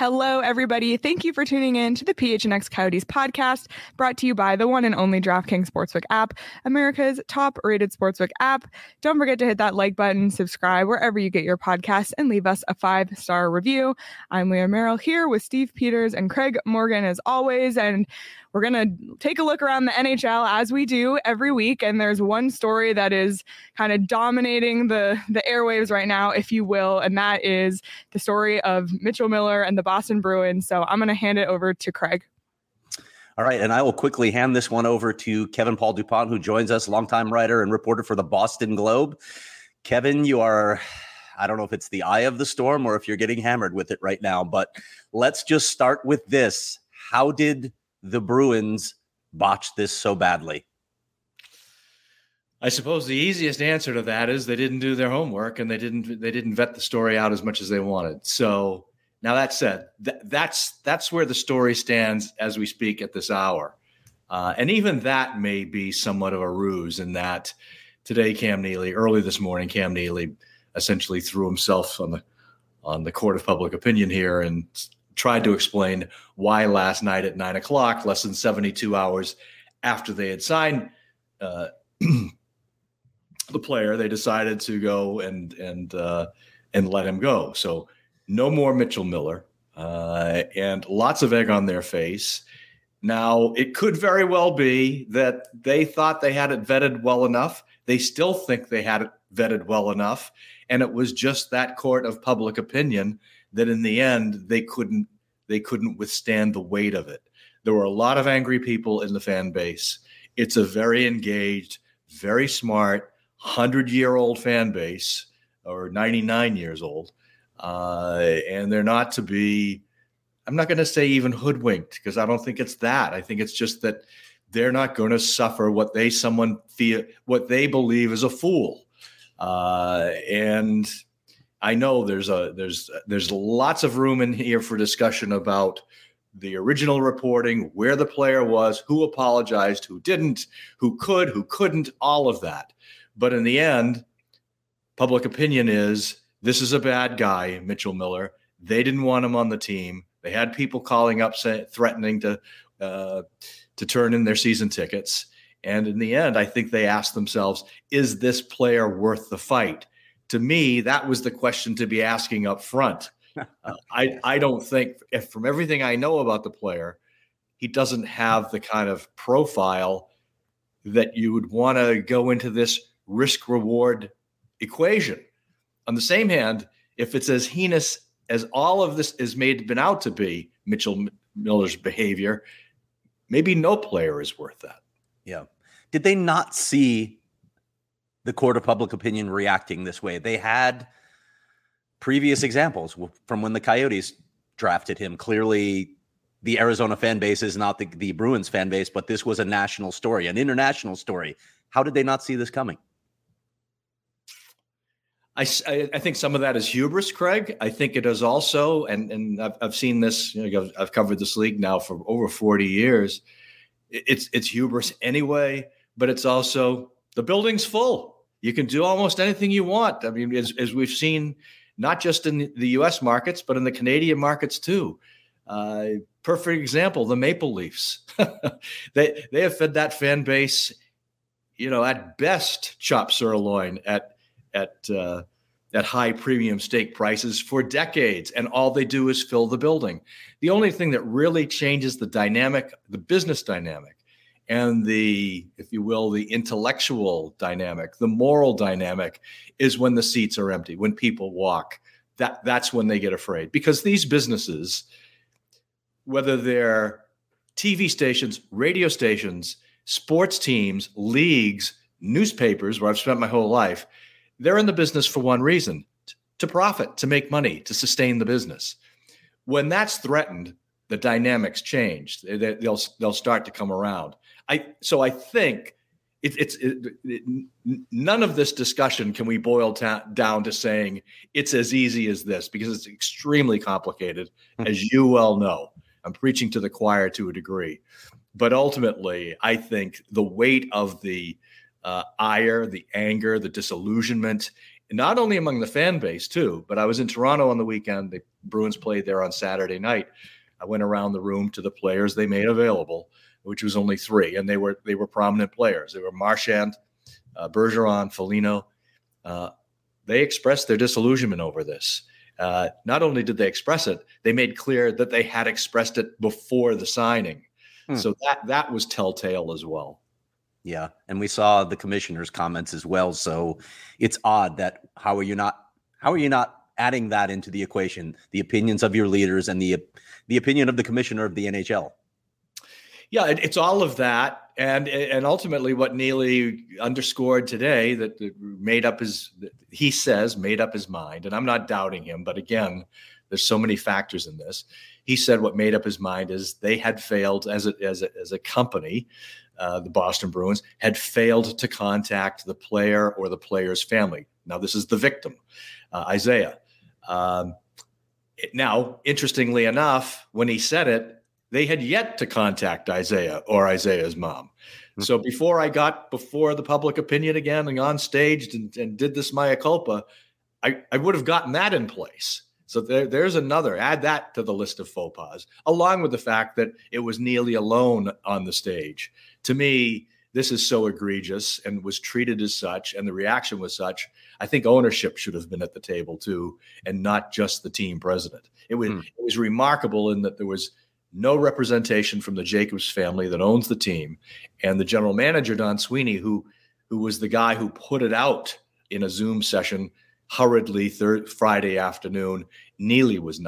Hello, everybody. Thank you for tuning in to the PHNX Coyotes podcast, brought to you by the one and only DraftKings Sportsbook app, America's top-rated sportsbook app. Don't forget to hit that like button, subscribe wherever you get your podcasts, and leave us a 5-star review. I'm Leah Merrill here with Steve Peters and Craig Morgan as always, and we're going to take a look around the NHL as we do every week, and there's one story that is kind of dominating the airwaves right now, if you will, and that is the story of Mitchell Miller and the Boston Bruins. So I'm going to hand it over to Craig. All right, and I will quickly hand this one over to Kevin Paul Dupont, who joins us, longtime writer and reporter for the Boston Globe. Kevin, you are, I don't know if it's the eye of the storm or if you're getting hammered with it right now, but let's just start with this. How did the Bruins botched this so badly? I suppose the easiest answer to that is they didn't do their homework and they didn't vet the story out as much as they wanted. So now that said, that's where the story stands as we speak at this hour. And even that may be somewhat of a ruse in that today, early this morning, Cam Neely essentially threw himself on the court of public opinion here and tried to explain why last night at 9:00, less than 72 hours after they had signed the player, they decided to go and let him go. So no more Mitchell Miller, and lots of egg on their face. Now, it could very well be that they thought they had it vetted well enough. They still think they had it vetted well enough, and it was just that court of public opinion that in the end they couldn't withstand the weight of it. There were a lot of angry people in the fan base. It's a very engaged, very smart, 100-year-old fan base, or 99 years old. And they're not to be, I'm not going to say even hoodwinked, because I don't think it's that. I think it's just that they're not going to suffer what they believe is a fool. And I know there's lots of room in here for discussion about the original reporting, where the player was, who apologized, who didn't, who could, who couldn't, all of that. But in the end, public opinion is this is a bad guy, Mitchell Miller. They didn't want him on the team. They had people calling up, threatening to turn in their season tickets. And in the end, I think they asked themselves, is this player worth the fight? To me, that was the question to be asking up front. I don't think, from everything I know about the player, he doesn't have the kind of profile that you would want to go into this risk-reward equation. On the same hand, if it's as heinous as all of this is been out to be, Mitchell Miller's behavior, maybe no player is worth that. Yeah. Did they not see the court of public opinion reacting this way? They had previous examples from when the Coyotes drafted him. Clearly, the Arizona fan base is not the Bruins fan base, but this was a national story, an international story. How did they not see this coming? I think some of that is hubris, Craig. I think it is also, and I've seen this, I've covered this league now for over 40 years. It's hubris anyway, but it's also the building's full. You can do almost anything you want. I mean, as we've seen, not just in the U.S. markets, but in the Canadian markets too. Perfect example, the Maple Leafs. They have fed that fan base, at best chopped sirloin at high premium steak prices for decades, and all they do is fill the building. The only thing that really changes the dynamic, the business dynamic, and the, if you will, the intellectual dynamic, the moral dynamic, is when the seats are empty, when people walk. That's when they get afraid. Because these businesses, whether they're TV stations, radio stations, sports teams, leagues, newspapers, where I've spent my whole life, they're in the business for one reason: to profit, to make money, to sustain the business. When that's threatened, the dynamics change. They'll start to come around. So I think none of this discussion can we boil down to saying it's as easy as this, because it's extremely complicated, as you well know. I'm preaching to the choir to a degree. But ultimately, I think the weight of the ire, the anger, the disillusionment, not only among the fan base too, but I was in Toronto on the weekend. The Bruins played there on Saturday night. I went around the room to the players they made available, which was only 3, and they were prominent players. They were Marchand, Bergeron, Foligno. They expressed their disillusionment over this. Not only did they express it, they made clear that they had expressed it before the signing. So that was telltale as well. Yeah, and we saw the commissioner's comments as well. So it's odd that how are you not adding that into the equation, the opinions of your leaders and the opinion of the commissioner of the NHL? Yeah, it's all of that, and ultimately what Neely underscored today that made up his mind, and I'm not doubting him, but again, there's so many factors in this. He said what made up his mind is they had failed as a company. The Boston Bruins had failed to contact the player or the player's family. Now, this is the victim, Isaiah. Now, interestingly enough, when he said it, they had yet to contact Isaiah or Isaiah's mom. So before the public opinion again and on stage and did this mea culpa, I would have gotten that in place. So there's another, add that to the list of faux pas, along with the fact that it was Neely alone on the stage. To me, this is so egregious and was treated as such, and the reaction was such. I think ownership should have been at the table too, and not just the team president. It was remarkable in that there was no representation from the Jacobs family that owns the team, and the general manager, Don Sweeney, who was the guy who put it out in a Zoom session hurriedly Friday afternoon. Sweeney was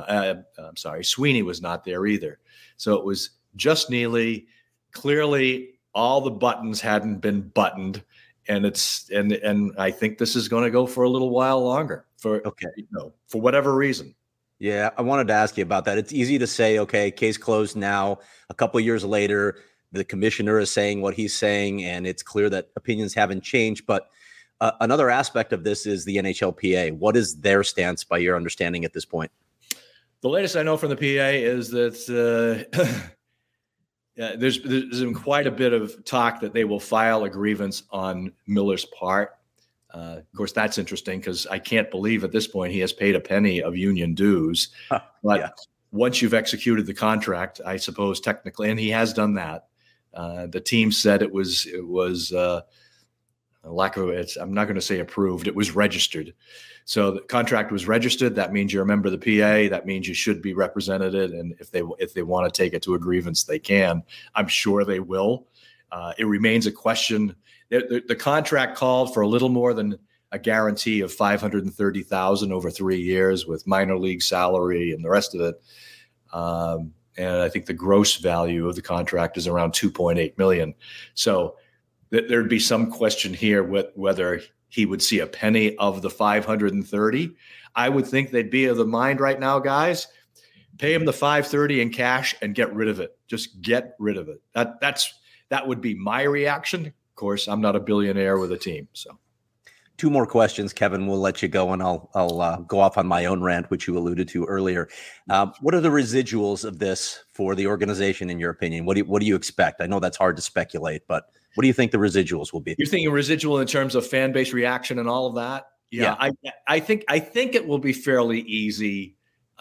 not there either. So it was just Neely. Clearly, all the buttons hadn't been buttoned, and I think this is going to go for a little while longer for whatever reason. Yeah, I wanted to ask you about that. It's easy to say, okay, case closed now. A couple of years later, the commissioner is saying what he's saying, and it's clear that opinions haven't changed. But another aspect of this is the NHLPA. What is their stance by your understanding at this point? The latest I know from the PA is that there's been quite a bit of talk that they will file a grievance on Miller's part. Of course, that's interesting because I can't believe at this point he has paid a penny of union dues. But once you've executed the contract, I suppose technically, and he has done that, the team said it was a lack of it. I'm not going to say approved. It was registered. So the contract was registered. That means you're a member of the PA. That means you should be represented. And if they want to take it to a grievance, they can. I'm sure they will. It remains a question. The contract called for a little more than a guarantee of $530,000 over 3 years with minor league salary and the rest of it. And I think the gross value of the contract is around $2.8 million. So there'd be some question here whether he would see a penny of the 530. I would think they'd be of the mind right now, guys, pay him the 530 in cash and get rid of it. Just get rid of it. That would be my reaction. Of course, I'm not a billionaire with a team. So 2 more questions, Kevin. We'll let you go, and I'll go off on my own rant, which you alluded to earlier. What are the residuals of this for the organization, in your opinion? What do you expect? I know that's hard to speculate, but what do you think the residuals will be? You're thinking residual in terms of fan base reaction and all of that? Yeah. I think it will be fairly easy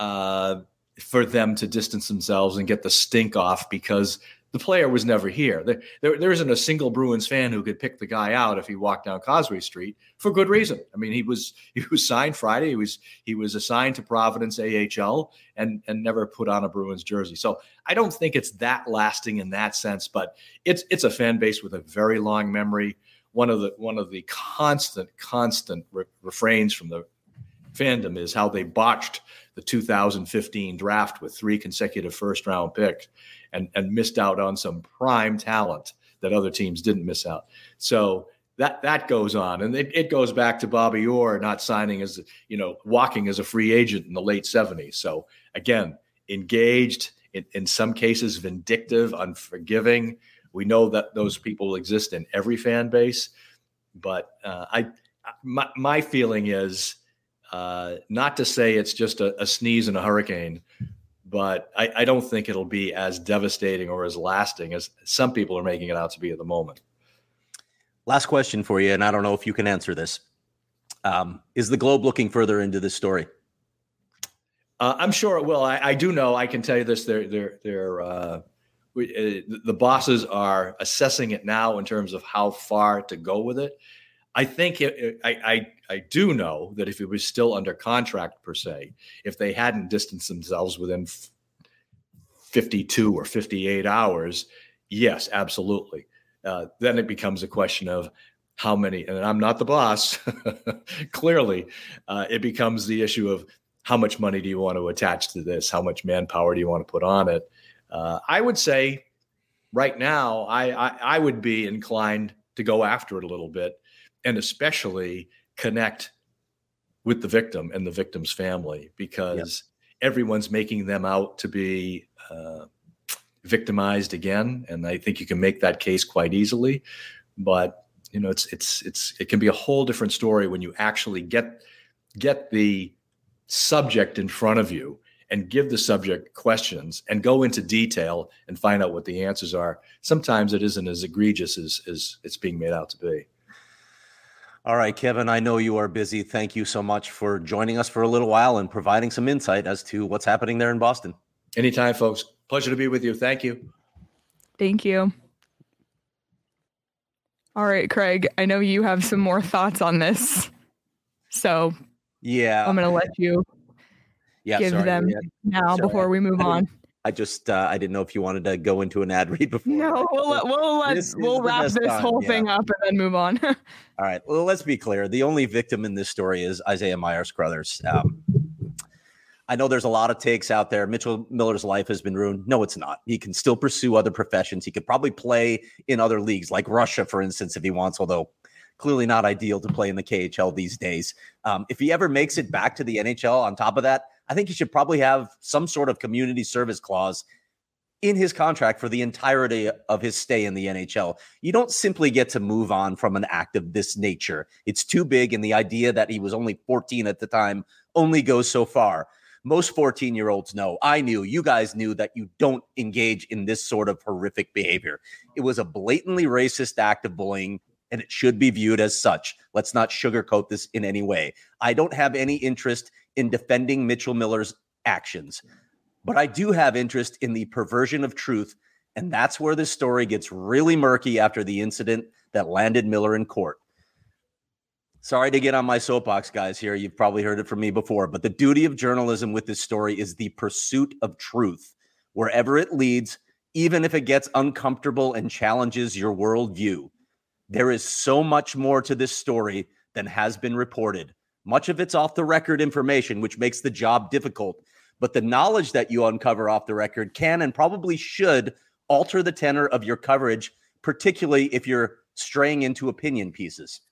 for them to distance themselves and get the stink off because the player was never here. There isn't a single Bruins fan who could pick the guy out if he walked down Causeway Street for good reason. I mean, he was signed Friday. He was assigned to Providence AHL and never put on a Bruins jersey. So I don't think it's that lasting in that sense, but it's a fan base with a very long memory. One of the constant refrains from the fandom is how they botched the 2015 draft with 3 consecutive first-round picks and missed out on some prime talent that other teams didn't miss out. So that goes on. And it goes back to Bobby Orr not signing walking as a free agent in the late 70s. So again, engaged, in some cases vindictive, unforgiving. We know that those people exist in every fan base. But my feeling is, not to say it's just a sneeze in a hurricane, but I don't think it'll be as devastating or as lasting as some people are making it out to be at the moment. Last question for you, and I don't know if you can answer this. Is the Globe looking further into this story? I'm sure it will. I do know. I can tell you this: the bosses are assessing it now in terms of how far to go with it. I think I do know that if it was still under contract per se, if they hadn't distanced themselves within 52 or 58 hours, yes, absolutely. Then it becomes a question of how many, and I'm not the boss, clearly, it becomes the issue of how much money do you want to attach to this? How much manpower do you want to put on it? I would say right now, I would be inclined to go after it a little bit and especially connect with the victim and the victim's family, because everyone's making them out to be victimized again. And I think you can make that case quite easily, but it can be a whole different story when you actually get the subject in front of you and give the subject questions and go into detail and find out what the answers are. Sometimes it isn't as egregious as it's being made out to be. All right, Kevin, I know you are busy. Thank you so much for joining us for a little while and providing some insight as to what's happening there in Boston. Anytime, folks. Pleasure to be with you. Thank you. Thank you. All right, Craig, I know you have some more thoughts on this. So yeah, I'm going to let you give them now before we move on. I just I didn't know if you wanted to go into an ad read before. No, we'll wrap this whole thing up and then move on. All right. Well, let's be clear. The only victim in this story is Isaiah Myers-Crothers. I know there's a lot of takes out there. Mitchell Miller's life has been ruined. No, it's not. He can still pursue other professions. He could probably play in other leagues, like Russia, for instance, if he wants, although clearly not ideal to play in the KHL these days. If he ever makes it back to the NHL, on top of that, I think he should probably have some sort of community service clause in his contract for the entirety of his stay in the NHL. You don't simply get to move on from an act of this nature. It's too big, and the idea that he was only 14 at the time only goes so far. Most 14-year-olds know, I knew, you guys knew that you don't engage in this sort of horrific behavior. It was a blatantly racist act of bullying, and it should be viewed as such. Let's not sugarcoat this in any way. I don't have any interest in defending Mitchell Miller's actions, but I do have interest in the perversion of truth, and that's where this story gets really murky after the incident that landed Miller in court. Sorry to get on my soapbox, guys, here. You've probably heard it from me before, but the duty of journalism with this story is the pursuit of truth, wherever it leads, even if it gets uncomfortable and challenges your worldview. There is so much more to this story than has been reported. Much of it's off the record information, which makes the job difficult. But the knowledge that you uncover off the record can and probably should alter the tenor of your coverage, particularly if you're straying into opinion pieces.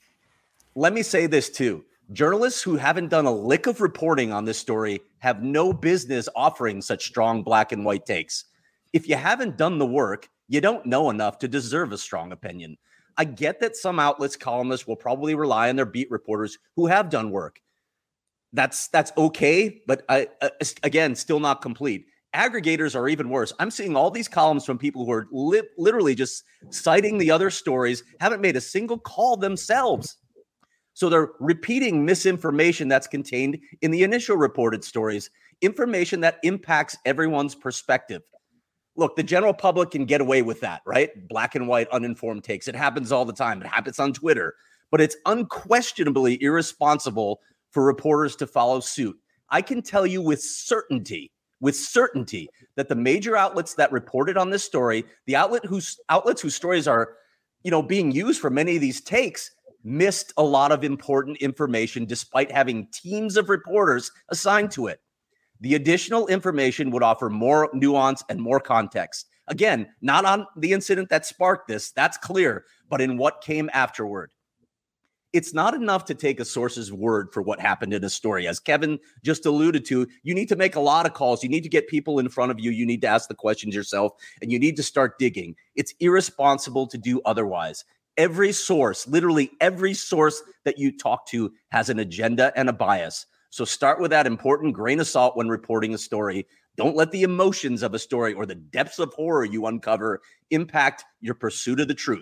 Let me say this too. Journalists who haven't done a lick of reporting on this story have no business offering such strong black and white takes. If you haven't done the work, you don't know enough to deserve a strong opinion. I get that some outlets, columnists will probably rely on their beat reporters who have done work. That's okay, but again, still not complete. Aggregators are even worse. I'm seeing all these columns from people who are literally just citing the other stories, haven't made a single call themselves. So they're repeating misinformation that's contained in the initial reported stories, information that impacts everyone's perspective. Look, the general public can get away with that, right? Black and white, uninformed takes. It happens all the time. It happens on Twitter. But it's unquestionably irresponsible for reporters to follow suit. I can tell you with certainty that the major outlets that reported on this story, the outlets whose stories are, being used for many of these takes, missed a lot of important information despite having teams of reporters assigned to it. The additional information would offer more nuance and more context. Again, not on the incident that sparked this, that's clear, but in what came afterward. It's not enough to take a source's word for what happened in a story. As Kevin just alluded to, you need to make a lot of calls. You need to get people in front of you. You need to ask the questions yourself, and you need to start digging. It's irresponsible to do otherwise. Every source, literally every source that you talk to has an agenda and a bias. So start with that important grain of salt when reporting a story. Don't let the emotions of a story or the depths of horror you uncover impact your pursuit of the truth.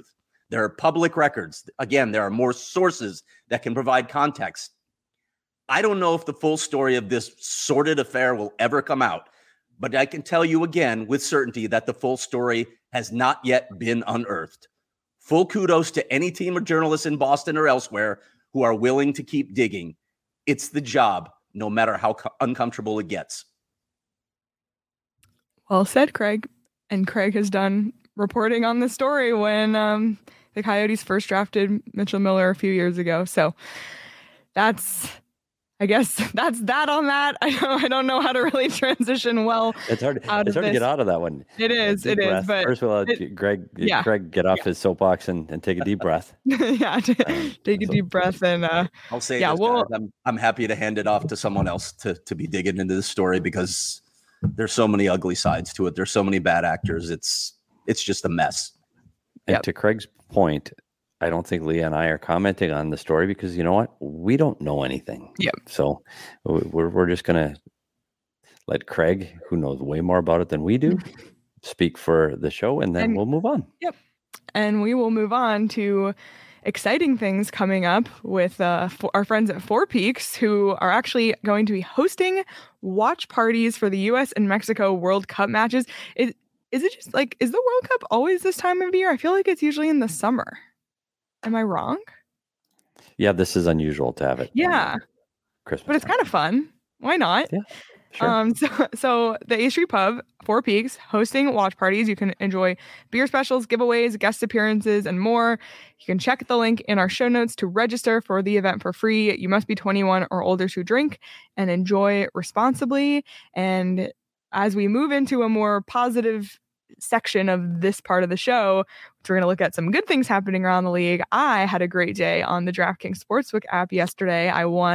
There are public records. Again, there are more sources that can provide context. I don't know if the full story of this sordid affair will ever come out, but I can tell you again with certainty that the full story has not yet been unearthed. Full kudos to any team of journalists in Boston or elsewhere who are willing to keep digging. It's the job, no matter how uncomfortable it gets. Well said, Craig. And Craig has done reporting on this story when the Coyotes first drafted Mitchell Miller a few years ago. So I guess that's that on that. I don't know how to really transition well. It's hard to get out of that one. It is. But first of all, Greg get off his soapbox and take a deep breath. Take a deep breath and I'll say this, guys, I'm happy to hand it off to someone else to be digging into this story because there's so many ugly sides to it. There's so many bad actors. It's just a mess. And to Craig's point, I don't think Leah and I are commenting on the story because you know what? We don't know anything. Yep. So we're just going to let Craig, who knows way more about it than we do, speak for the show, and then we'll move on. Yep. And we will move on to exciting things coming up with our friends at Four Peaks, who are actually going to be hosting watch parties for the U.S. and Mexico World Cup matches. Is it just like, is the World Cup always this time of year? I feel like it's usually in the summer. Am I wrong? Yeah, this is unusual to have it. Yeah. Christmas. But it's kind of fun. Why not? Yeah. Sure. So the A Street Pub, Four Peaks, hosting watch parties. You can enjoy beer specials, giveaways, guest appearances, and more. You can check the link in our show notes to register for the event for free. You must be 21 or older to drink and enjoy responsibly. And as we move into a more positive section of this part of the show, we're going to look at some good things happening around the league. I had a great day on the DraftKings Sportsbook app yesterday.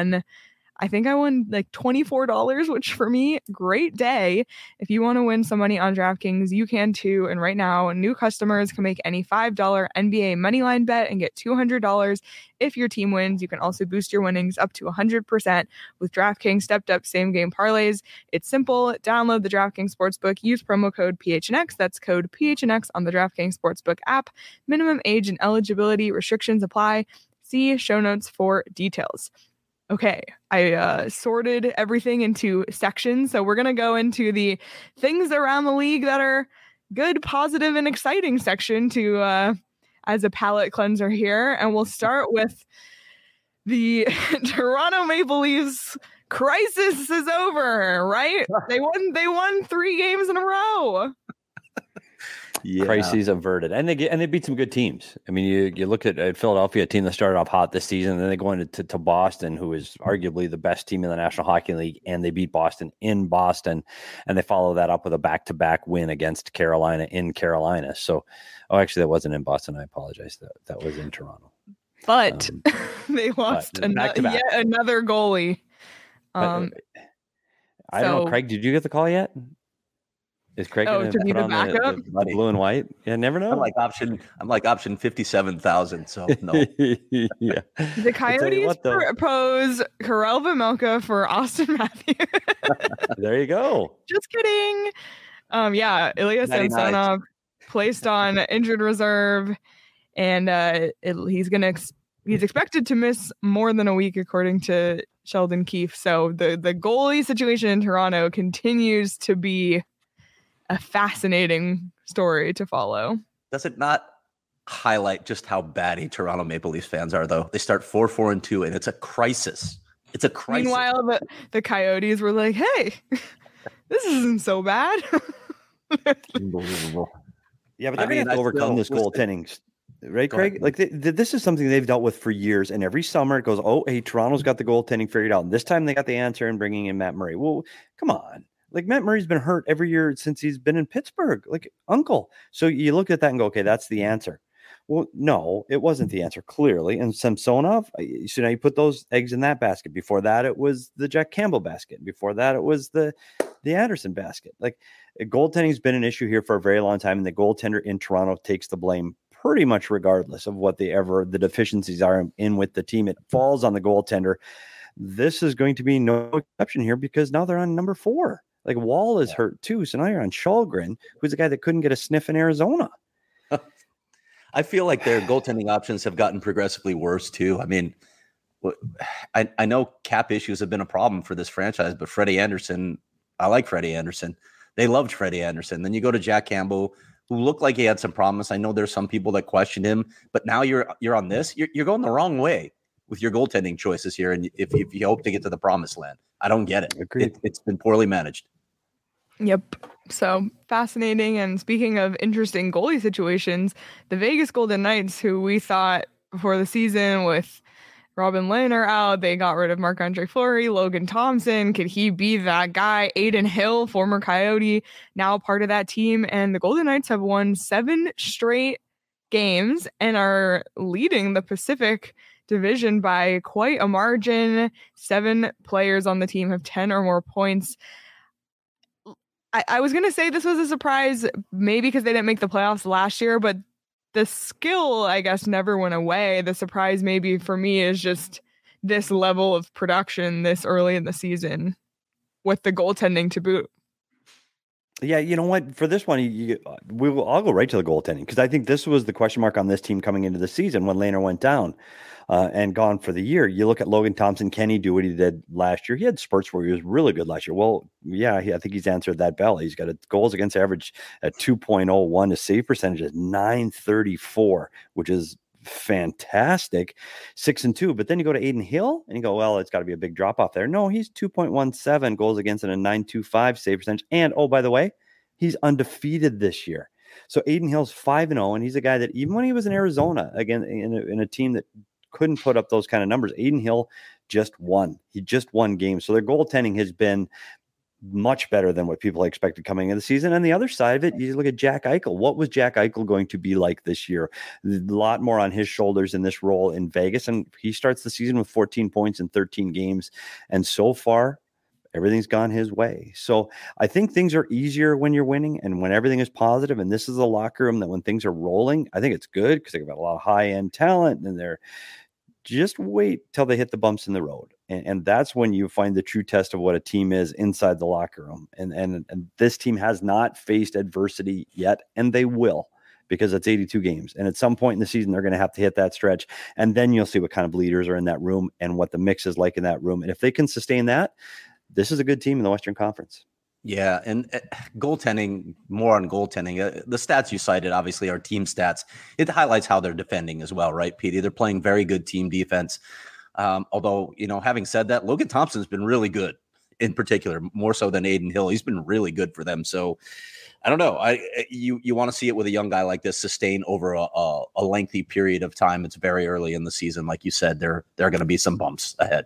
I think I won like $24, which for me, great day. If you want to win some money on DraftKings, you can too. And right now, new customers can make any $5 NBA moneyline bet and get $200 if your team wins. You can also boost your winnings up to 100% with DraftKings stepped up same game parlays. It's simple. Download the DraftKings Sportsbook. Use promo code PHNX. That's code PHNX on the DraftKings Sportsbook app. Minimum age and eligibility restrictions apply. See show notes for details. Okay, I sorted everything into sections. So we're going to go into the things around the league that are good, positive, and exciting section to as a palate cleanser here. And we'll start with the Toronto Maple Leafs crisis is over, right? They won 3 games in a row. Yeah. Crises averted, and they beat some good teams. I mean, you look at Philadelphia, a team that started off hot this season, and then they go into to Boston, who is arguably the best team in the National Hockey League, and they beat Boston in Boston, and they follow that up with a back-to-back win against Carolina in Carolina. So, actually, that wasn't in Boston. I apologize. That was in Toronto. But they lost yet another goalie. I don't know, Craig. Did you get the call yet? Is Craig going to be the backup? The blue and white? Yeah, never know. I'm like option 57,000. So no. Yeah. The Coyotes propose Karel Vejmelka for Austin Matthews. There you go. Just kidding. Ilya Samsonov placed on injured reserve, and he's expected to miss more than a week, according to Sheldon Keefe. So the goalie situation in Toronto continues to be a fascinating story to follow. Does it not highlight just how batty Toronto Maple Leafs fans are, though? They start 4-4-2, and it's a crisis. It's a crisis. Meanwhile, the Coyotes were like, hey, this isn't so bad. Unbelievable. Yeah, but they're going to overcome this goaltending. Right, Craig? Like this is something they've dealt with for years, and every summer it goes, oh, hey, Toronto's got the goaltending figured out. And this time they got the answer in bringing in Matt Murray. Well, come on. Like Matt Murray's been hurt every year since he's been in Pittsburgh, like uncle. So you look at that and go, okay, that's the answer. Well, no, it wasn't the answer, clearly. And Samsonov, so now you put those eggs in that basket. Before that, it was the Jack Campbell basket. Before that, it was the Anderson basket. Like goaltending's been an issue here for a very long time, and the goaltender in Toronto takes the blame pretty much regardless of what the deficiencies are in with the team. It falls on the goaltender. This is going to be no exception here because now they're on number 4. Like Wall is hurt too. So now you're on Shalgren, who's the guy that couldn't get a sniff in Arizona. I feel like their goaltending options have gotten progressively worse too. I mean, I know cap issues have been a problem for this franchise, but Freddie Anderson, I like Freddie Anderson. They loved Freddie Anderson. Then you go to Jack Campbell, who looked like he had some promise. I know there's some people that questioned him, but now you're on this. You're going the wrong way with your goaltending choices here, and if you hope to get to the promised land, I don't get it. It's been poorly managed. Yep. So fascinating. And speaking of interesting goalie situations, the Vegas Golden Knights, who we thought before the season with Robin Lehner out, they got rid of Marc-Andre Fleury, Logan Thompson. Could he be that guy? Adin Hill, former Coyote, now part of that team. And the Golden Knights have won 7 straight games and are leading the Pacific Division by quite a margin. 7 players on the team have 10 or more points. I was going to say this was a surprise, maybe because they didn't make the playoffs last year, but the skill, I guess, never went away. The surprise maybe for me is just this level of production this early in the season with the goaltending to boot. Yeah, you know what? For this one, I'll go right to the goaltending, because I think this was the question mark on this team coming into the season when Lehner went down and gone for the year. You look at Logan Thompson. Can he do what he did last year? He had spurts where he was really good last year. Well, yeah, I think he's answered that bell. He's got a goals against average at 2.01. His save percentage is .934, which is fantastic. 6-2. But then you go to Adin Hill and you go, well, it's got to be a big drop off there. No, he's 2.17 goals against and a .925 save percentage. And oh, by the way, he's undefeated this year. So Adin Hill's 5-0, and he's a guy that even when he was in Arizona, again in a team that couldn't put up those kind of numbers, Adin Hill just won. He just won games. So their goaltending has been much better than what people expected coming into the season. And the other side of it, you look at Jack Eichel. What was Jack Eichel going to be like this year? A lot more on his shoulders in this role in Vegas. And he starts the season with 14 points in 13 games. And so far, everything's gone his way. So I think things are easier when you're winning and when everything is positive. And this is a locker room that when things are rolling, I think it's good because they've got a lot of high-end talent and they're just wait till they hit the bumps in the road. And that's when you find the true test of what a team is inside the locker room. And this team has not faced adversity yet, and they will, because it's 82 games. And at some point in the season, they're going to have to hit that stretch. And then you'll see what kind of leaders are in that room and what the mix is like in that room. And if they can sustain that, this is a good team in the Western Conference. Yeah, and goaltending, more on goaltending. The stats you cited, obviously, are team stats. It highlights how they're defending as well, right, Petey? They're playing very good team defense. Although, having said that, Logan Thompson's been really good, in particular, more so than Adin Hill. He's been really good for them. So, I don't know. You want to see it with a young guy like this sustain over a lengthy period of time. It's very early in the season. Like you said, there are going to be some bumps ahead.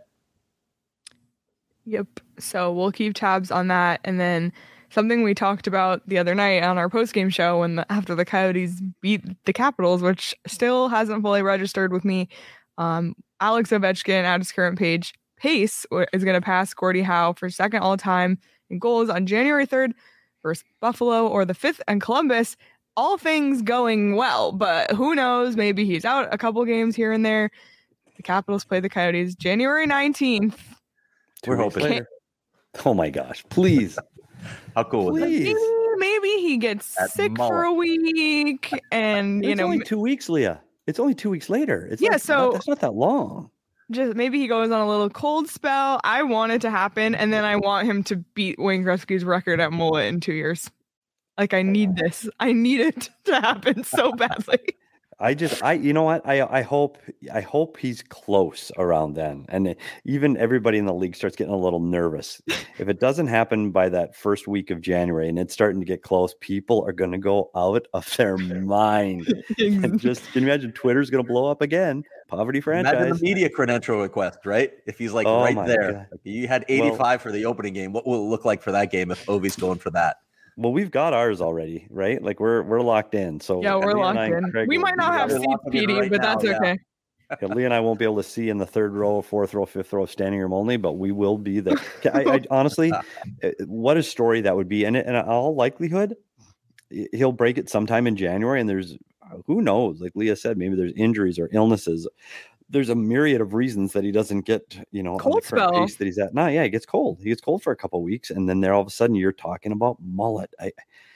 Yep. So we'll keep tabs on that. And then something we talked about the other night on our postgame show after the Coyotes beat the Capitals, which still hasn't fully registered with me. Alex Ovechkin at his current pace is going to pass Gordie Howe for second all time in goals on January 3rd versus Buffalo, or the 5th and Columbus. All things going well, but who knows? Maybe he's out a couple games here and there. The Capitals play the Coyotes January 19th. We're hoping. Oh my gosh! Please, how cool was that? Maybe he gets sick for a week, and it's only 2 weeks, Leah. It's only 2 weeks later. It's that's not that long. Just maybe he goes on a little cold spell. I want it to happen, and then I want him to beat Wayne Gretzky's record at mullet in 2 years. Like, I need this. I need it to happen so badly. You know what? I hope he's close around then. And even everybody in the league starts getting a little nervous. If it doesn't happen by that first week of January and it's starting to get close, people are going to go out of their mind. And just, can you imagine Twitter's going to blow up again? Poverty franchise. Imagine the media credential request, right? If he's like right there. Like, you had 85 for the opening game. What will it look like for that game if Ovi's going for that? Well, we've got ours already, right? Like we're locked in. So yeah, we're locked in. Craig, we might not have seats, PD, but that's okay. Yeah, Lee and I won't be able to see in the third row, fourth row, fifth row, standing room only, but we will be there. I honestly, what a story that would be. And in all likelihood, he'll break it sometime in January. And there's, who knows? Like Leah said, maybe there's injuries or illnesses. There's a myriad of reasons that he doesn't get, cold spell pace that he's at. No, yeah, he gets cold. He gets cold for a couple of weeks, and then there all of a sudden you're talking about mullet.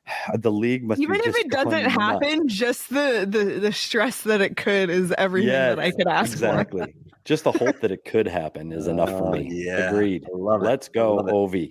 The league must even be if it doesn't happen, nuts. Just the stress that it could is everything that I could ask for. Just the hope that it could happen is enough for me. Yeah, agreed. Let's go, Ovi.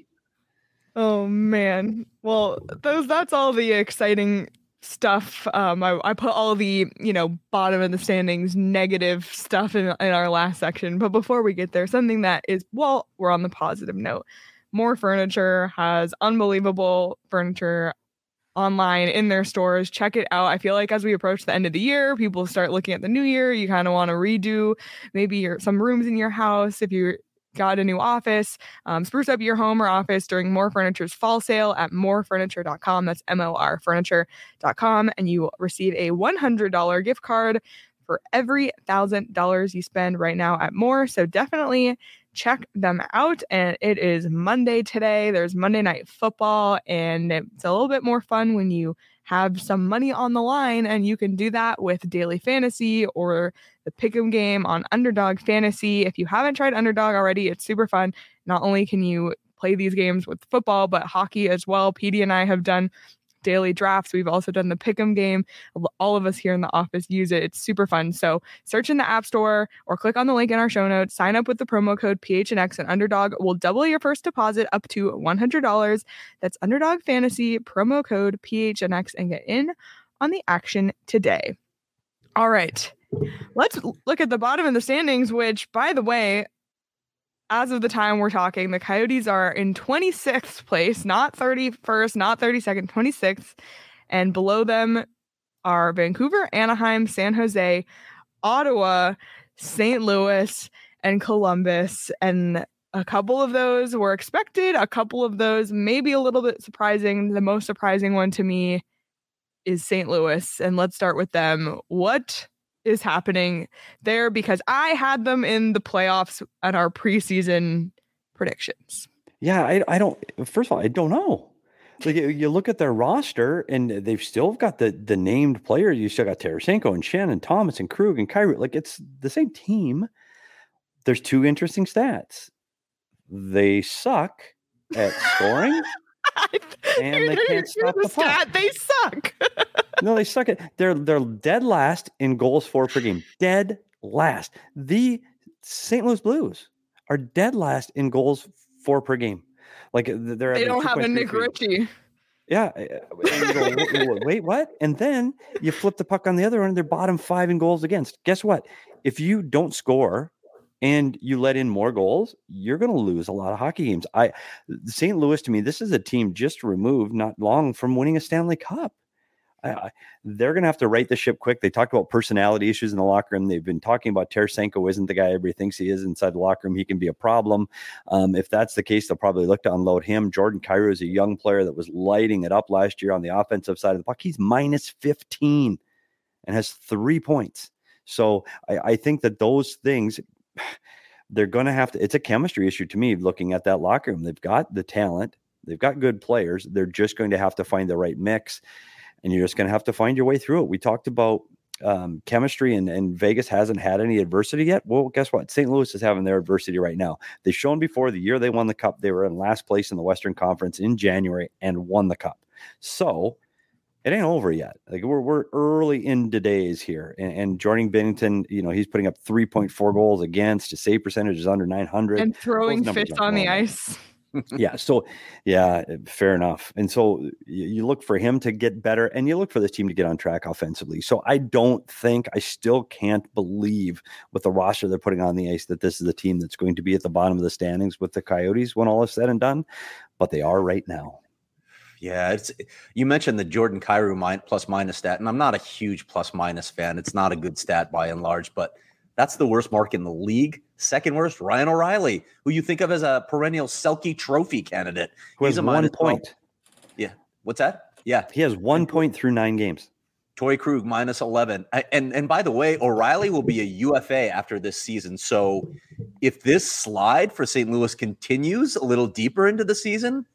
Oh man. Well, that's all the exciting stuff. I put all the bottom of the standings negative stuff in our last section. But before we get there, something that is, well, we're on the positive note. More Furniture has unbelievable furniture online in their stores. Check it out. I feel like as we approach the end of the year, people start looking at the new year. You kind of want to redo maybe some rooms in your house. If you got a new office, spruce up your home or office during More Furniture's fall sale at morefurniture.com. That's morfurniture.com. And you receive a $100 gift card for every $1,000 you spend right now at More. So definitely check them out. And it is Monday today. There's Monday Night Football, and it's a little bit more fun when you have some money on the line, and you can do that with daily fantasy or the pick'em game on Underdog Fantasy. If you haven't tried Underdog already, it's super fun. Not only can you play these games with football, but hockey as well. Petey and I have done daily drafts. We've also done the pick'em game. All of us here in the office use it. It's super fun. So search in the App Store or click on the link in our show notes. Sign up with the promo code PHNX, and Underdog will double your first deposit up to $100. That's Underdog Fantasy, promo code PHNX, and get in on the action today. All right. Let's look at the bottom of the standings, which, by the way, as of the time we're talking, the Coyotes are in 26th place, not 31st, not 32nd, 26th. And below them are Vancouver, Anaheim, San Jose, Ottawa, St. Louis, and Columbus. And a couple of those were expected. A couple of those maybe a little bit surprising. The most surprising one to me is St. Louis. And let's start with them. What is happening there? Because I had them in the playoffs at our preseason predictions. Yeah, I don't. First of all, I don't know. Like you look at their roster, and they've still got the named players. You still got Tarasenko and Shen and Thomas and Krug and Kyrou. Like it's the same team. There's two interesting stats. They suck at scoring, and they can't stop the puck. They suck. No, they suck at. They're dead last in goals for per game. Dead last. The St. Louis Blues are dead last in goals for per game. Like they don't have a Nick Ritchie. Yeah. And you go, wait, what? And then you flip the puck on the other end. They're bottom 5 in goals against. Guess what? If you don't score and you let in more goals, you're going to lose a lot of hockey games. St. Louis, to me, this is a team just removed not long from winning a Stanley Cup. They're going to have to right the ship quick. They talked about personality issues in the locker room. They've been talking about Tarasenko isn't the guy everybody thinks he is inside the locker room. He can be a problem. If that's the case, they'll probably look to unload him. Jordan Kyrou is a young player that was lighting it up last year on the offensive side of the puck. He's minus 15 and has 3 points. So I think that those things, they're going to have to, it's a chemistry issue to me looking at that locker room. They've got the talent. They've got good players. They're just going to have to find the right mix. And you're just going to have to find your way through it. We talked about chemistry, and Vegas hasn't had any adversity yet. Well, guess what? St. Louis is having their adversity right now. They've shown before the year they won the Cup, they were in last place in the Western Conference in January and won the Cup. So it ain't over yet. Like we're early into days here. And Jordan Binnington, he's putting up 3.4 goals against. His save percentage is under 900. And throwing fists on the ice. Yeah. So, fair enough. And so you look for him to get better, and you look for this team to get on track offensively. So I still can't believe with the roster they're putting on the ice that this is the team that's going to be at the bottom of the standings with the Coyotes when all is said and done. But they are right now. Yeah, you mentioned the Jordan Kyrou plus minus stat, and I'm not a huge plus minus fan. It's not a good stat by and large, but that's the worst mark in the league. Second worst, Ryan O'Reilly, who you think of as a perennial Selke Trophy candidate. He's a 1 point. Yeah. What's that? Yeah. He has 1 point through 9 games. Torrey Krug minus 11. And by the way, O'Reilly will be a UFA after this season. So if this slide for St. Louis continues a little deeper into the season,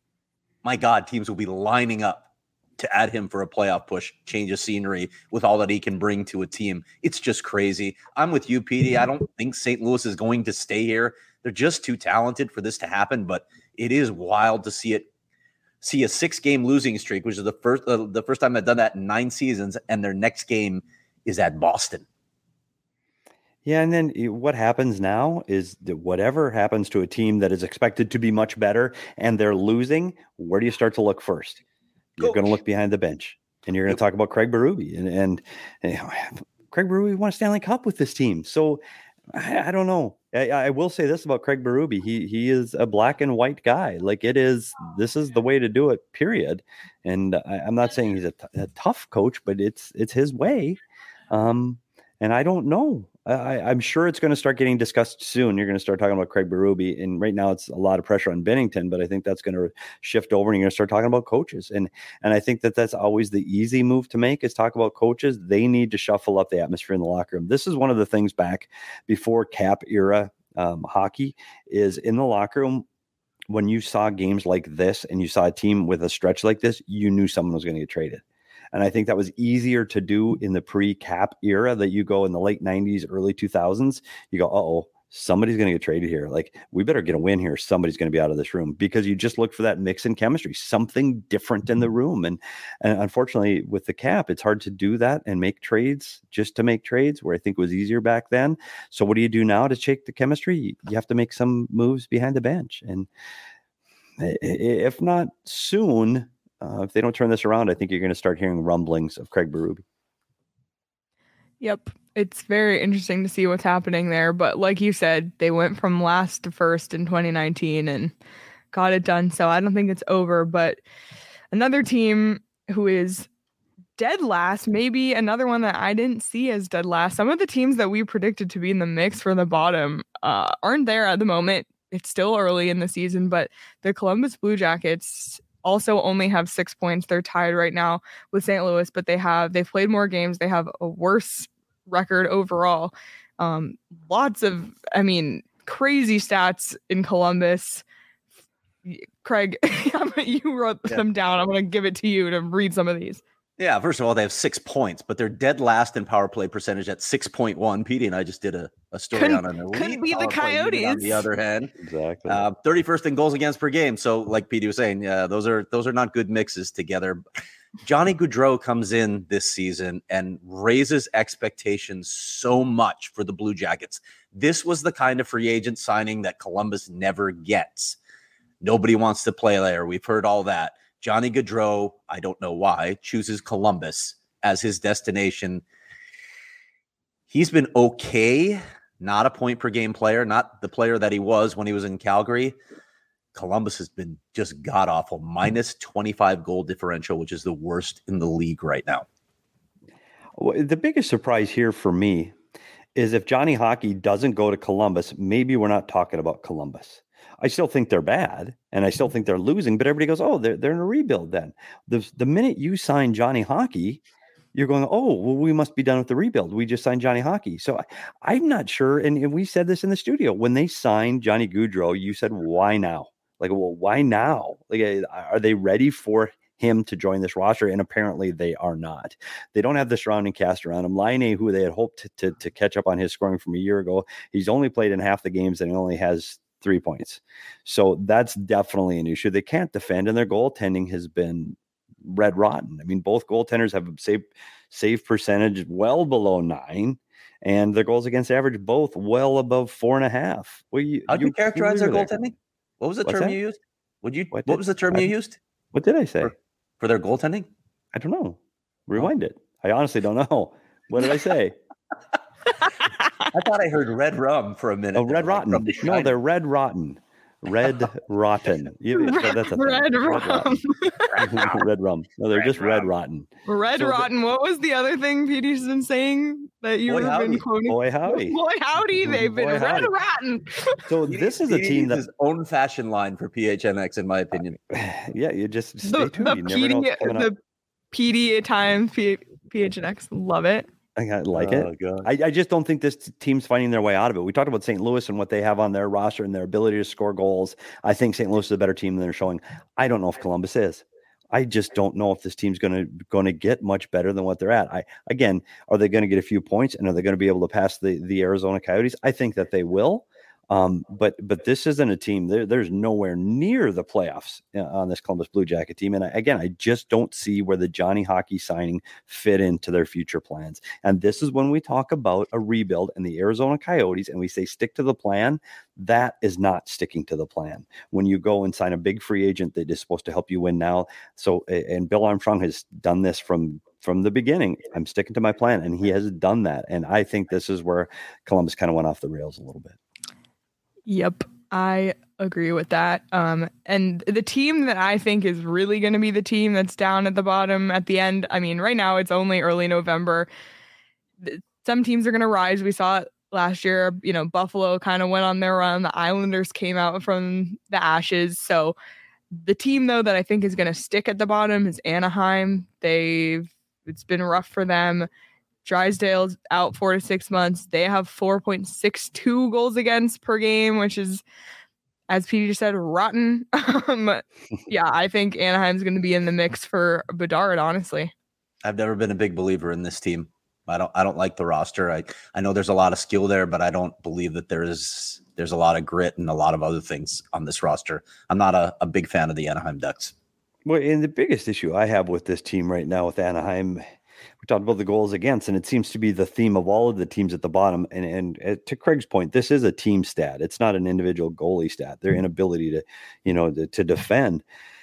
my God, teams will be lining up to add him for a playoff push, change of scenery with all that he can bring to a team. It's just crazy. I'm with you, Petey. I don't think St. Louis is going to stay here. They're just too talented for this to happen, but it is wild to see it see a 6-game losing streak, which is the first time they've done that in 9 seasons, and their next game is at Boston. Yeah, and then what happens now is that whatever happens to a team that is expected to be much better and they're losing, where do you start to look first? You're going to look behind the bench, and you're going to talk about Craig Berube. And Craig Berube won a Stanley Cup with this team. So I don't know. I will say this about Craig Berube. He is a black and white guy. Like this is the way to do it, period. And I'm not saying he's a tough coach, but it's his way. And I don't know. I'm sure it's going to start getting discussed soon. You're going to start talking about Craig Berube, and right now it's a lot of pressure on Binnington, but I think that's going to shift over, and you're going to start talking about coaches. And I think that's always the easy move to make, is talk about coaches. They need to shuffle up the atmosphere in the locker room. This is one of the things back before cap era hockey, is in the locker room. When you saw games like this and you saw a team with a stretch like this, you knew someone was going to get traded. And I think that was easier to do in the pre-cap era, that you go in the late 90s, early 2000s. You go, uh-oh, somebody's going to get traded here. Like, we better get a win here. Somebody's going to be out of this room, because you just look for that mix in chemistry, something different in the room. And unfortunately, with the cap, it's hard to do that and make trades just to make trades, where I think it was easier back then. So what do you do now to shake the chemistry? You have to make some moves behind the bench. And if not soon, if they don't turn this around, I think you're going to start hearing rumblings of Craig Berube. Yep. It's very interesting to see what's happening there. But like you said, they went from last to first in 2019 and got it done. So I don't think it's over. But another team who is dead last, maybe another one that I didn't see as dead last. Some of the teams that we predicted to be in the mix for the bottom aren't there at the moment. It's still early in the season, but the Columbus Blue Jackets also only have 6 points. They're tied right now with St. Louis, but they've played more games. They have a worse record overall. Lots of, crazy stats in Columbus. Craig, you wrote them down. I'm going to give it to you to read some of these. Yeah, first of all, they have 6 points, but they're dead last in power play percentage at 6.1. Petey and I just did a story on it. Couldn't be the Coyotes. On the other hand, exactly. 31st in goals against per game. So, like Petey was saying, those are not good mixes together. Johnny Gaudreau comes in this season and raises expectations so much for the Blue Jackets. This was the kind of free agent signing that Columbus never gets. Nobody wants to play there. We've heard all that. Johnny Gaudreau, I don't know why, chooses Columbus as his destination. He's been okay, not a point per game player, not the player that he was when he was in Calgary. Columbus has been just god-awful, minus 25 goal differential, which is the worst in the league right now. Well, the biggest surprise here for me is if Johnny Hockey doesn't go to Columbus, maybe we're not talking about Columbus. I still think they're bad, and I still think they're losing, but everybody goes, oh, they're in a rebuild then. The minute you sign Johnny Hockey, you're going, oh, well, we must be done with the rebuild. We just signed Johnny Hockey. So I'm not sure, and we said this in the studio. When they signed Johnny Gaudreau, you said, why now? Like, well, why now? Like, are they ready for him to join this roster? And apparently they are not. They don't have the surrounding cast around him. Laine, who they had hoped to catch up on his scoring from a year ago, he's only played in half the games and he only has 3 points. So that's definitely an issue. They can't defend, and their goaltending has been red rotten. I mean, both goaltenders have a save percentage well below 9, and their goals against average both well above 4.5. Well, how do you characterize their goaltending? What was the term you used? What was the term you used? What did I say? For their goaltending? I don't know. Rewind it. I honestly don't know. What did I say? I thought I heard red rum for a minute. Oh, red rotten. No, they're red rotten. Red rotten. That's a red rum. Red rum. No, they're just red rotten. Red rotten. What was the other thing Petey's been saying that you were been quoting? Boy howdy. Boy howdy. They've been red rotten. So this is a team that's own fashion line for PHNX, in my opinion. Yeah, you just stay tuned. You never know what's coming up. The PD at times, PHNX. Love it. I like it. I just don't think this team's finding their way out of it. We talked about St. Louis and what they have on their roster and their ability to score goals. I think St. Louis is a better team than they're showing. I don't know if Columbus is. I just don't know if this team's going to get much better than what they're at. Are they going to get a few points, and are they going to be able to pass the Arizona Coyotes? I think that they will. But this isn't a team. There's nowhere near the playoffs on this Columbus Blue Jacket team. And I just don't see where the Johnny Hockey signing fit into their future plans. And this is when we talk about a rebuild and the Arizona Coyotes, and we say stick to the plan. That is not sticking to the plan. When you go and sign a big free agent that is supposed to help you win now. So, and Bill Armstrong has done this from the beginning. I'm sticking to my plan, and he has done that. And I think this is where Columbus kind of went off the rails a little bit. Yep, I agree with that. And the team that I think is really going to be the team that's down at the bottom at the end. I mean, right now it's only early November. Some teams are going to rise. We saw it last year. Buffalo kind of went on their run. The Islanders came out from the ashes. So the team, though, that I think is going to stick at the bottom is Anaheim. It's been rough for them. Drysdale's out 4 to 6 months. They have 4.62 goals against per game, which is, as Petey just said, rotten. Yeah, I think Anaheim's going to be in the mix for Bedard, honestly. I've never been a big believer in this team. I don't like the roster. I know there's a lot of skill there, but I don't believe that there's a lot of grit and a lot of other things on this roster. I'm not a big fan of the Anaheim Ducks. Well, and the biggest issue I have with this team right now with Anaheim, we talked about the goals against, and it seems to be the theme of all of the teams at the bottom. And to Craig's point, this is a team stat. It's not an individual goalie stat. Their inability to defend.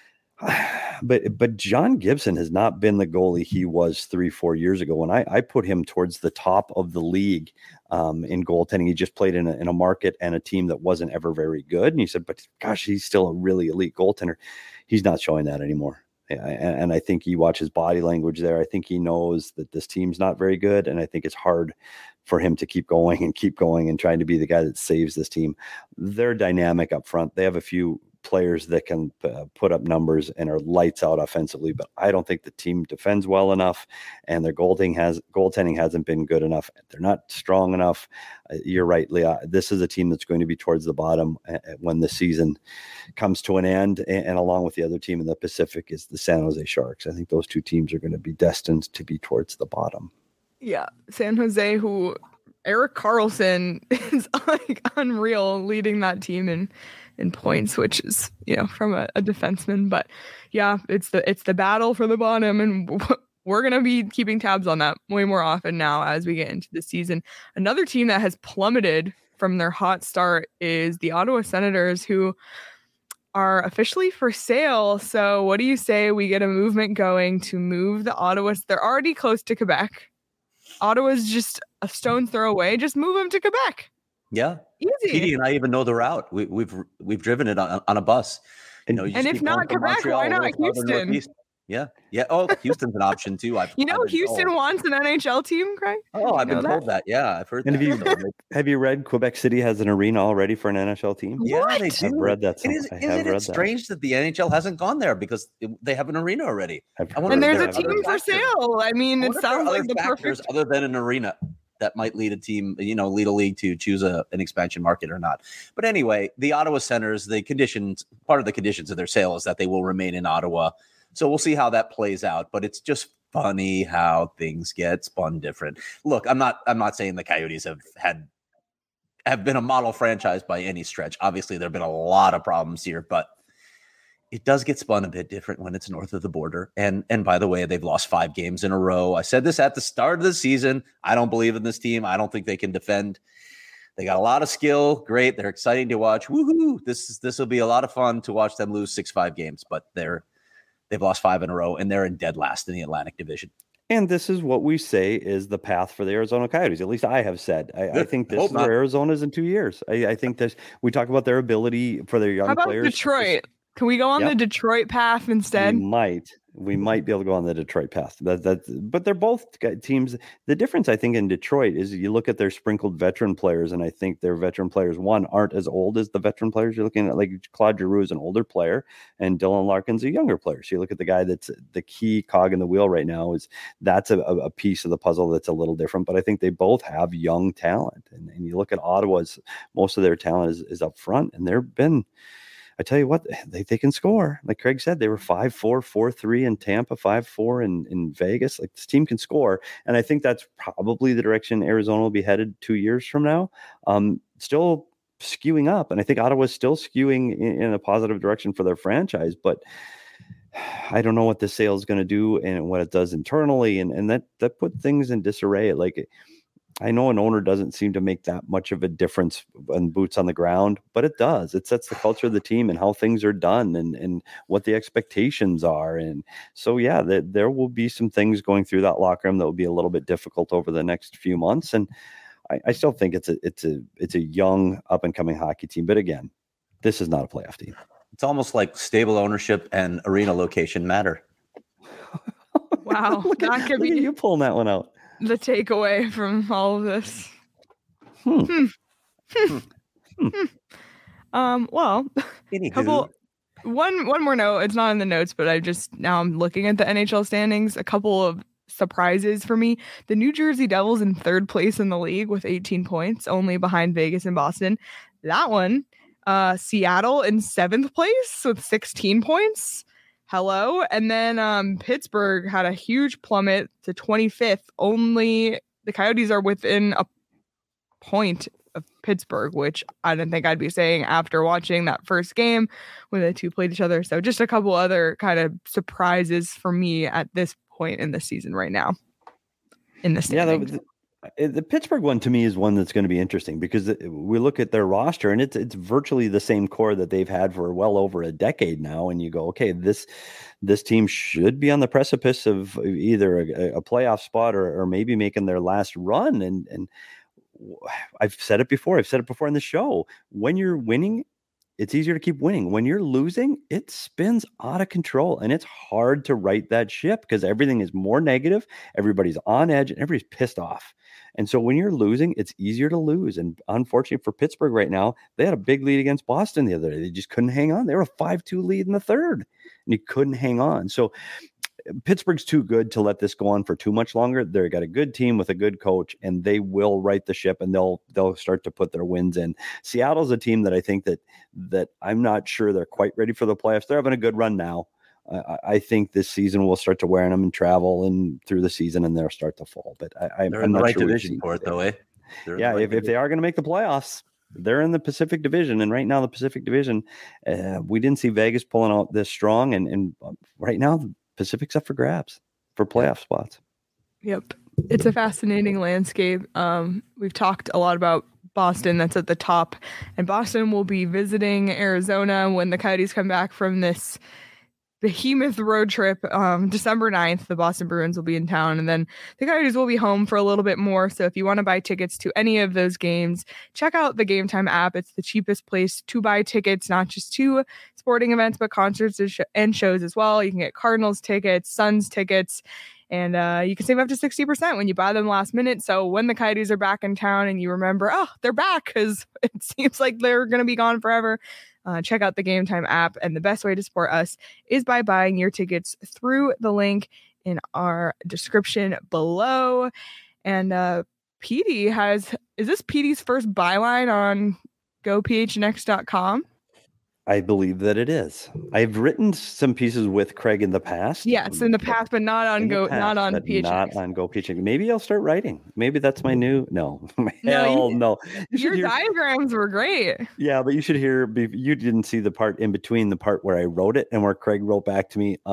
But John Gibson has not been the goalie he was 3-4 years ago. When I put him towards the top of the league in goaltending, he just played in a market and a team that wasn't ever very good. And you said, but gosh, he's still a really elite goaltender. He's not showing that anymore. And I think you watch his body language there. I think he knows that this team's not very good. And I think it's hard for him to keep going and trying to be the guy that saves this team. They're dynamic up front. They have a few players that can put up numbers and are lights out offensively, but I don't think the team defends well enough, and their goaltending hasn't been good enough. They're not strong enough. You're right, Leah. This is a team that's going to be towards the bottom when the season comes to an end, and along with the other team in the Pacific is the San Jose Sharks. I think those two teams are going to be destined to be towards the bottom. Yeah, San Jose, who Erik Karlsson is like unreal leading that team in points, which is, from a defenseman. But yeah, it's the battle for the bottom, and we're going to be keeping tabs on that way more often now as we get into the season. Another team that has plummeted from their hot start is the Ottawa Senators, who are officially for sale. So what do you say we get a movement going to move the Ottawas? They're already close to Quebec. Ottawa's just a stone's throw away. Just move them to Quebec. Yeah, easy. Petey and I even know the route. We've driven it on a bus. And if not Quebec, why not Houston? Yeah. Oh, Houston's an option too. Houston wants an NHL team, Craig. Oh, I've been told that. Yeah, I've heard. And that. Have you read Quebec City has an arena already for an NHL team? Yeah, they do. I've read that. Isn't it strange that the NHL hasn't gone there because they have an arena already? And there's a team for sale. I mean, it sounds like the perfect other than an arena that might lead a team, lead a league to choose an expansion market or not. But anyway, the Ottawa Senators, part of the conditions of their sale is that they will remain in Ottawa. So we'll see how that plays out. But it's just funny how things get spun different. Look, I'm not saying the Coyotes have been a model franchise by any stretch. Obviously, there have been a lot of problems here, but it does get spun a bit different when it's north of the border. And by the way, they've lost 5 games in a row. I said this at the start of the season. I don't believe in this team. I don't think they can defend. They got a lot of skill. Great. They're exciting to watch. Woohoo. This will be a lot of fun to watch them lose 6-5 games, but they've lost 5 in a row, and they're in dead last in the Atlantic Division. And this is what we say is the path for the Arizona Coyotes. At least I have said. I think this is where Arizona's in 2 years. I think this. We talk about their ability for their young players. How about Detroit? Can we go on the Detroit path instead? We might be able to go on the Detroit path. But they're both teams. The difference, I think, in Detroit is you look at their sprinkled veteran players, and I think their veteran players, aren't as old as the veteran players. You're looking at like Claude Giroux is an older player, and Dylan Larkin's a younger player. So you look at the guy that's the key cog in the wheel right now. That's a piece of the puzzle that's a little different. But I think they both have young talent, and you look at Ottawa's, most of their talent is up front, and they've been. I tell you what, they can score. Like Craig said, they were 5-4, 4-3 in Tampa, 5-4 in Vegas. Like, this team can score. And I think that's probably the direction Arizona will be headed 2 years from now. Still skewing up, and I think Ottawa's still skewing in a positive direction for their franchise, but I don't know what the sale is going to do and what it does internally, and that put things in disarray. Like, I know an owner doesn't seem to make that much of a difference on boots on the ground, but it does. It sets the culture of the team and how things are done and what the expectations are. And so, yeah, there will be some things going through that locker room that will be a little bit difficult over the next few months. And I still think it's a young up and coming hockey team. But again, this is not a playoff team. It's almost like stable ownership and arena location matter. Wow. Look at you pulling that one out. The takeaway from all of this. Well, one more note. It's not in the notes, but I'm looking at the NHL standings. A couple of surprises for me. The New Jersey Devils in 3rd place in the league with 18 points, only behind Vegas and Boston. That one. Seattle in 7th place with 16 points. Hello. And then Pittsburgh had a huge plummet to 25th. Only the Coyotes are within a point of Pittsburgh, which I didn't think I'd be saying after watching that first game when the two played each other. So just a couple other kind of surprises for me at this point in the season right now. In the standings. The Pittsburgh one to me is one that's going to be interesting because we look at their roster and it's virtually the same core that they've had for well over a decade now. And you go, okay, this team should be on the precipice of either a playoff spot or maybe making their last run. And I've said it before. I've said it before in the show. When you're winning, it's easier to keep winning. When you're losing, it spins out of control and it's hard to right that ship because everything is more negative. Everybody's on edge and everybody's pissed off. And so when you're losing, it's easier to lose. And unfortunately for Pittsburgh right now, they had a big lead against Boston the other day. They just couldn't hang on. They were a 5-2 lead in the 3rd and you couldn't hang on. So Pittsburgh's too good to let this go on for too much longer. They've got a good team with a good coach, and they will right the ship, and they'll start to put their wins in. Seattle's a team that I think that I'm not sure they're quite ready for the playoffs. They're having a good run now. I think this season will start to wear on them and travel and through the season, and they'll start to fall. But I'm in the not right sure division for it, though, eh? Yeah, if they are going to make the playoffs, they're in the Pacific Division, and right now the Pacific Division, we didn't see Vegas pulling out this strong, and right now the Pacific's up for grabs for playoff spots. Yep. It's a fascinating landscape. We've talked a lot about Boston, that's at the top, and Boston will be visiting Arizona when the Coyotes come back from this behemoth road trip. December 9th, the Boston Bruins will be in town, and then the Coyotes will be home for a little bit more. So if you want to buy tickets to any of those games, check out the Game Time app. It's the cheapest place to buy tickets, not just to sporting events, but concerts and shows as well. You can get Cardinals tickets, Suns tickets, and you can save up to 60% when you buy them last minute. So when the Coyotes are back in town and you remember, oh, they're back, because it seems like they're going to be gone forever, check out the Game Time app. And the best way to support us is by buying your tickets through the link in our description below. And Petey is this Petey's first byline on GoPHNX.com? I believe that it is. I've written some pieces with Craig in the past. Yes, in the past, but not on PHNX. Not on GoPHNX. Maybe I'll start writing. Maybe that's my new. No, hell no. Your diagrams were great. Yeah, but you should hear. You didn't see the part in between the part where I wrote it and where Craig wrote back to me.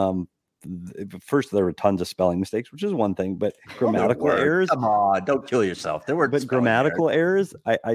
First, there were tons of spelling mistakes, which is one thing, but grammatical errors. Come on, don't kill yourself. There were grammatical errors.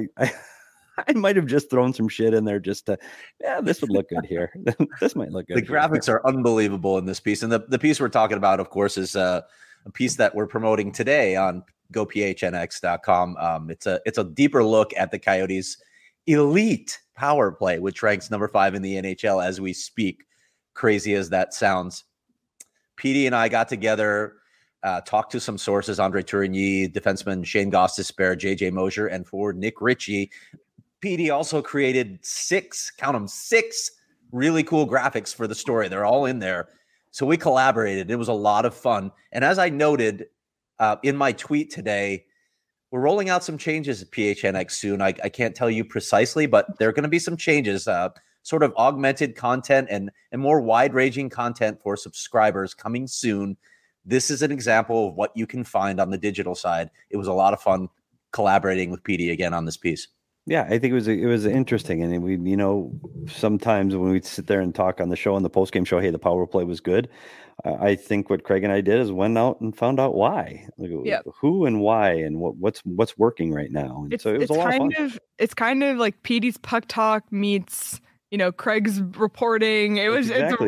I might have just thrown some shit in there just to, this would look good here. This might look good. The graphics are unbelievable in this piece. And the piece we're talking about, of course, is a piece that we're promoting today on GoPHNX.com. It's a deeper look at the Coyotes' elite power play, which ranks number 5 in the NHL as we speak. Crazy as that sounds. Petey and I got together, talked to some sources, Andre Tourigny, defenseman Shane Gostisbehere, JJ Mosier, and forward Nick Ritchie. Petey also created 6 really cool graphics for the story. They're all in there. So we collaborated. It was a lot of fun. And as I noted in my tweet today, we're rolling out some changes at PHNX soon. I can't tell you precisely, but there are going to be some changes, sort of augmented content and more wide-ranging content for subscribers coming soon. This is an example of what you can find on the digital side. It was a lot of fun collaborating with Petey again on this piece. Yeah, I think it was interesting, and we, sometimes when we sit there and talk on the show, on the post game show, hey, the power play was good. I think what Craig and I did is went out and found out why, who and why, and what's working right now. And so it was a lot of fun. It's kind of like Petey's Puck Talk meets Craig's reporting. It's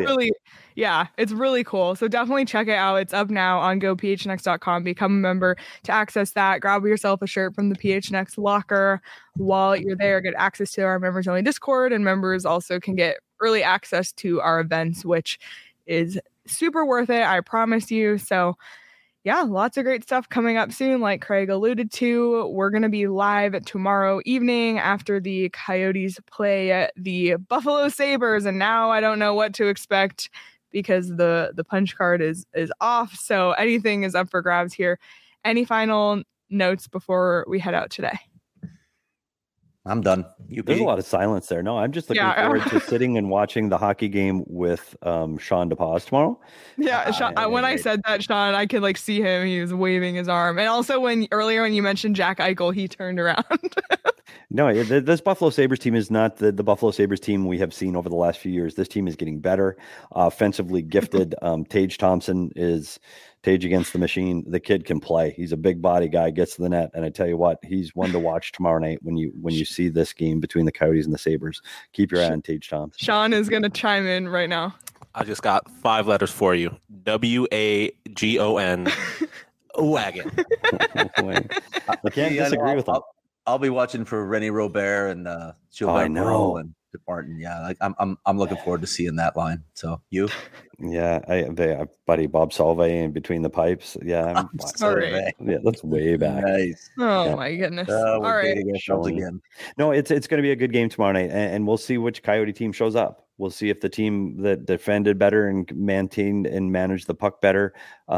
really cool. So definitely check it out. It's up now on gophnx.com. Become a member to access that. Grab yourself a shirt from the PHNX locker while you're there. Get access to our members only Discord, and members also can get early access to our events, which is super worth it. I promise you. So yeah, lots of great stuff coming up soon. Like Craig alluded to, we're going to be live tomorrow evening after the Coyotes play the Buffalo Sabres. And now I don't know what to expect because the punch card is off. So anything is up for grabs here. Any final notes before we head out today? I'm done. There's a lot of silence there. No, I'm just looking forward to sitting and watching the hockey game with Sean DePaz tomorrow. Yeah, Sean, when I said that, Sean, I could see him. He was waving his arm. And also earlier when you mentioned Jack Eichel, he turned around. No, this Buffalo Sabres team is not the Buffalo Sabres team we have seen over the last few years. This team is getting better, offensively gifted. Tage Thompson is Tage against the machine. The kid can play. He's a big body guy, gets to the net, and I tell you what, he's one to watch tomorrow night when you see this game between the Coyotes and the Sabres. Keep your eye on Tage Thompson. Sean is going to chime in right now. I just got 5 letters for you. WAGON. Wagon. I can't disagree with him. I'll be watching for Rennie Robert and Gilbert Perreault and Martin. Yeah, I'm looking forward to seeing that line. So you? Yeah, buddy Bob Salve in between the pipes. Yeah, I'm sorry. Yeah, that's way back. Nice. Oh my goodness! All right. Again. No, it's going to be a good game tomorrow night, and we'll see which Coyote team shows up. We'll see if the team that defended better and maintained and managed the puck better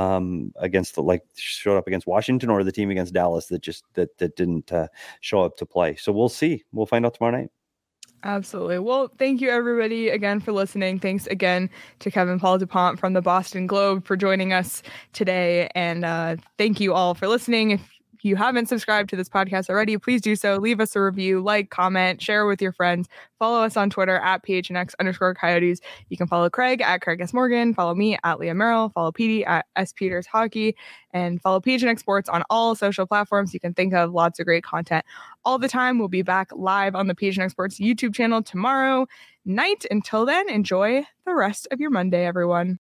showed up against Washington, or the team against Dallas that didn't show up to play. So we'll see. We'll find out tomorrow night. Absolutely. Well, thank you everybody again for listening. Thanks again to Kevin Paul DuPont from the Boston Globe for joining us today. And thank you all for listening. If you haven't subscribed to this podcast already, please do so. Leave us a review, comment, share with your friends. Follow us on Twitter at PHNX_Coyotes. You can follow Craig at Craig S. Morgan. Follow me at Leah Merrill. Follow Petey at S. Peters Hockey. And follow PHNX Sports on all social platforms you can think of. Lots of great content all the time. We'll be back live on the PHNX Sports YouTube channel tomorrow night. Until then, enjoy the rest of your Monday, everyone.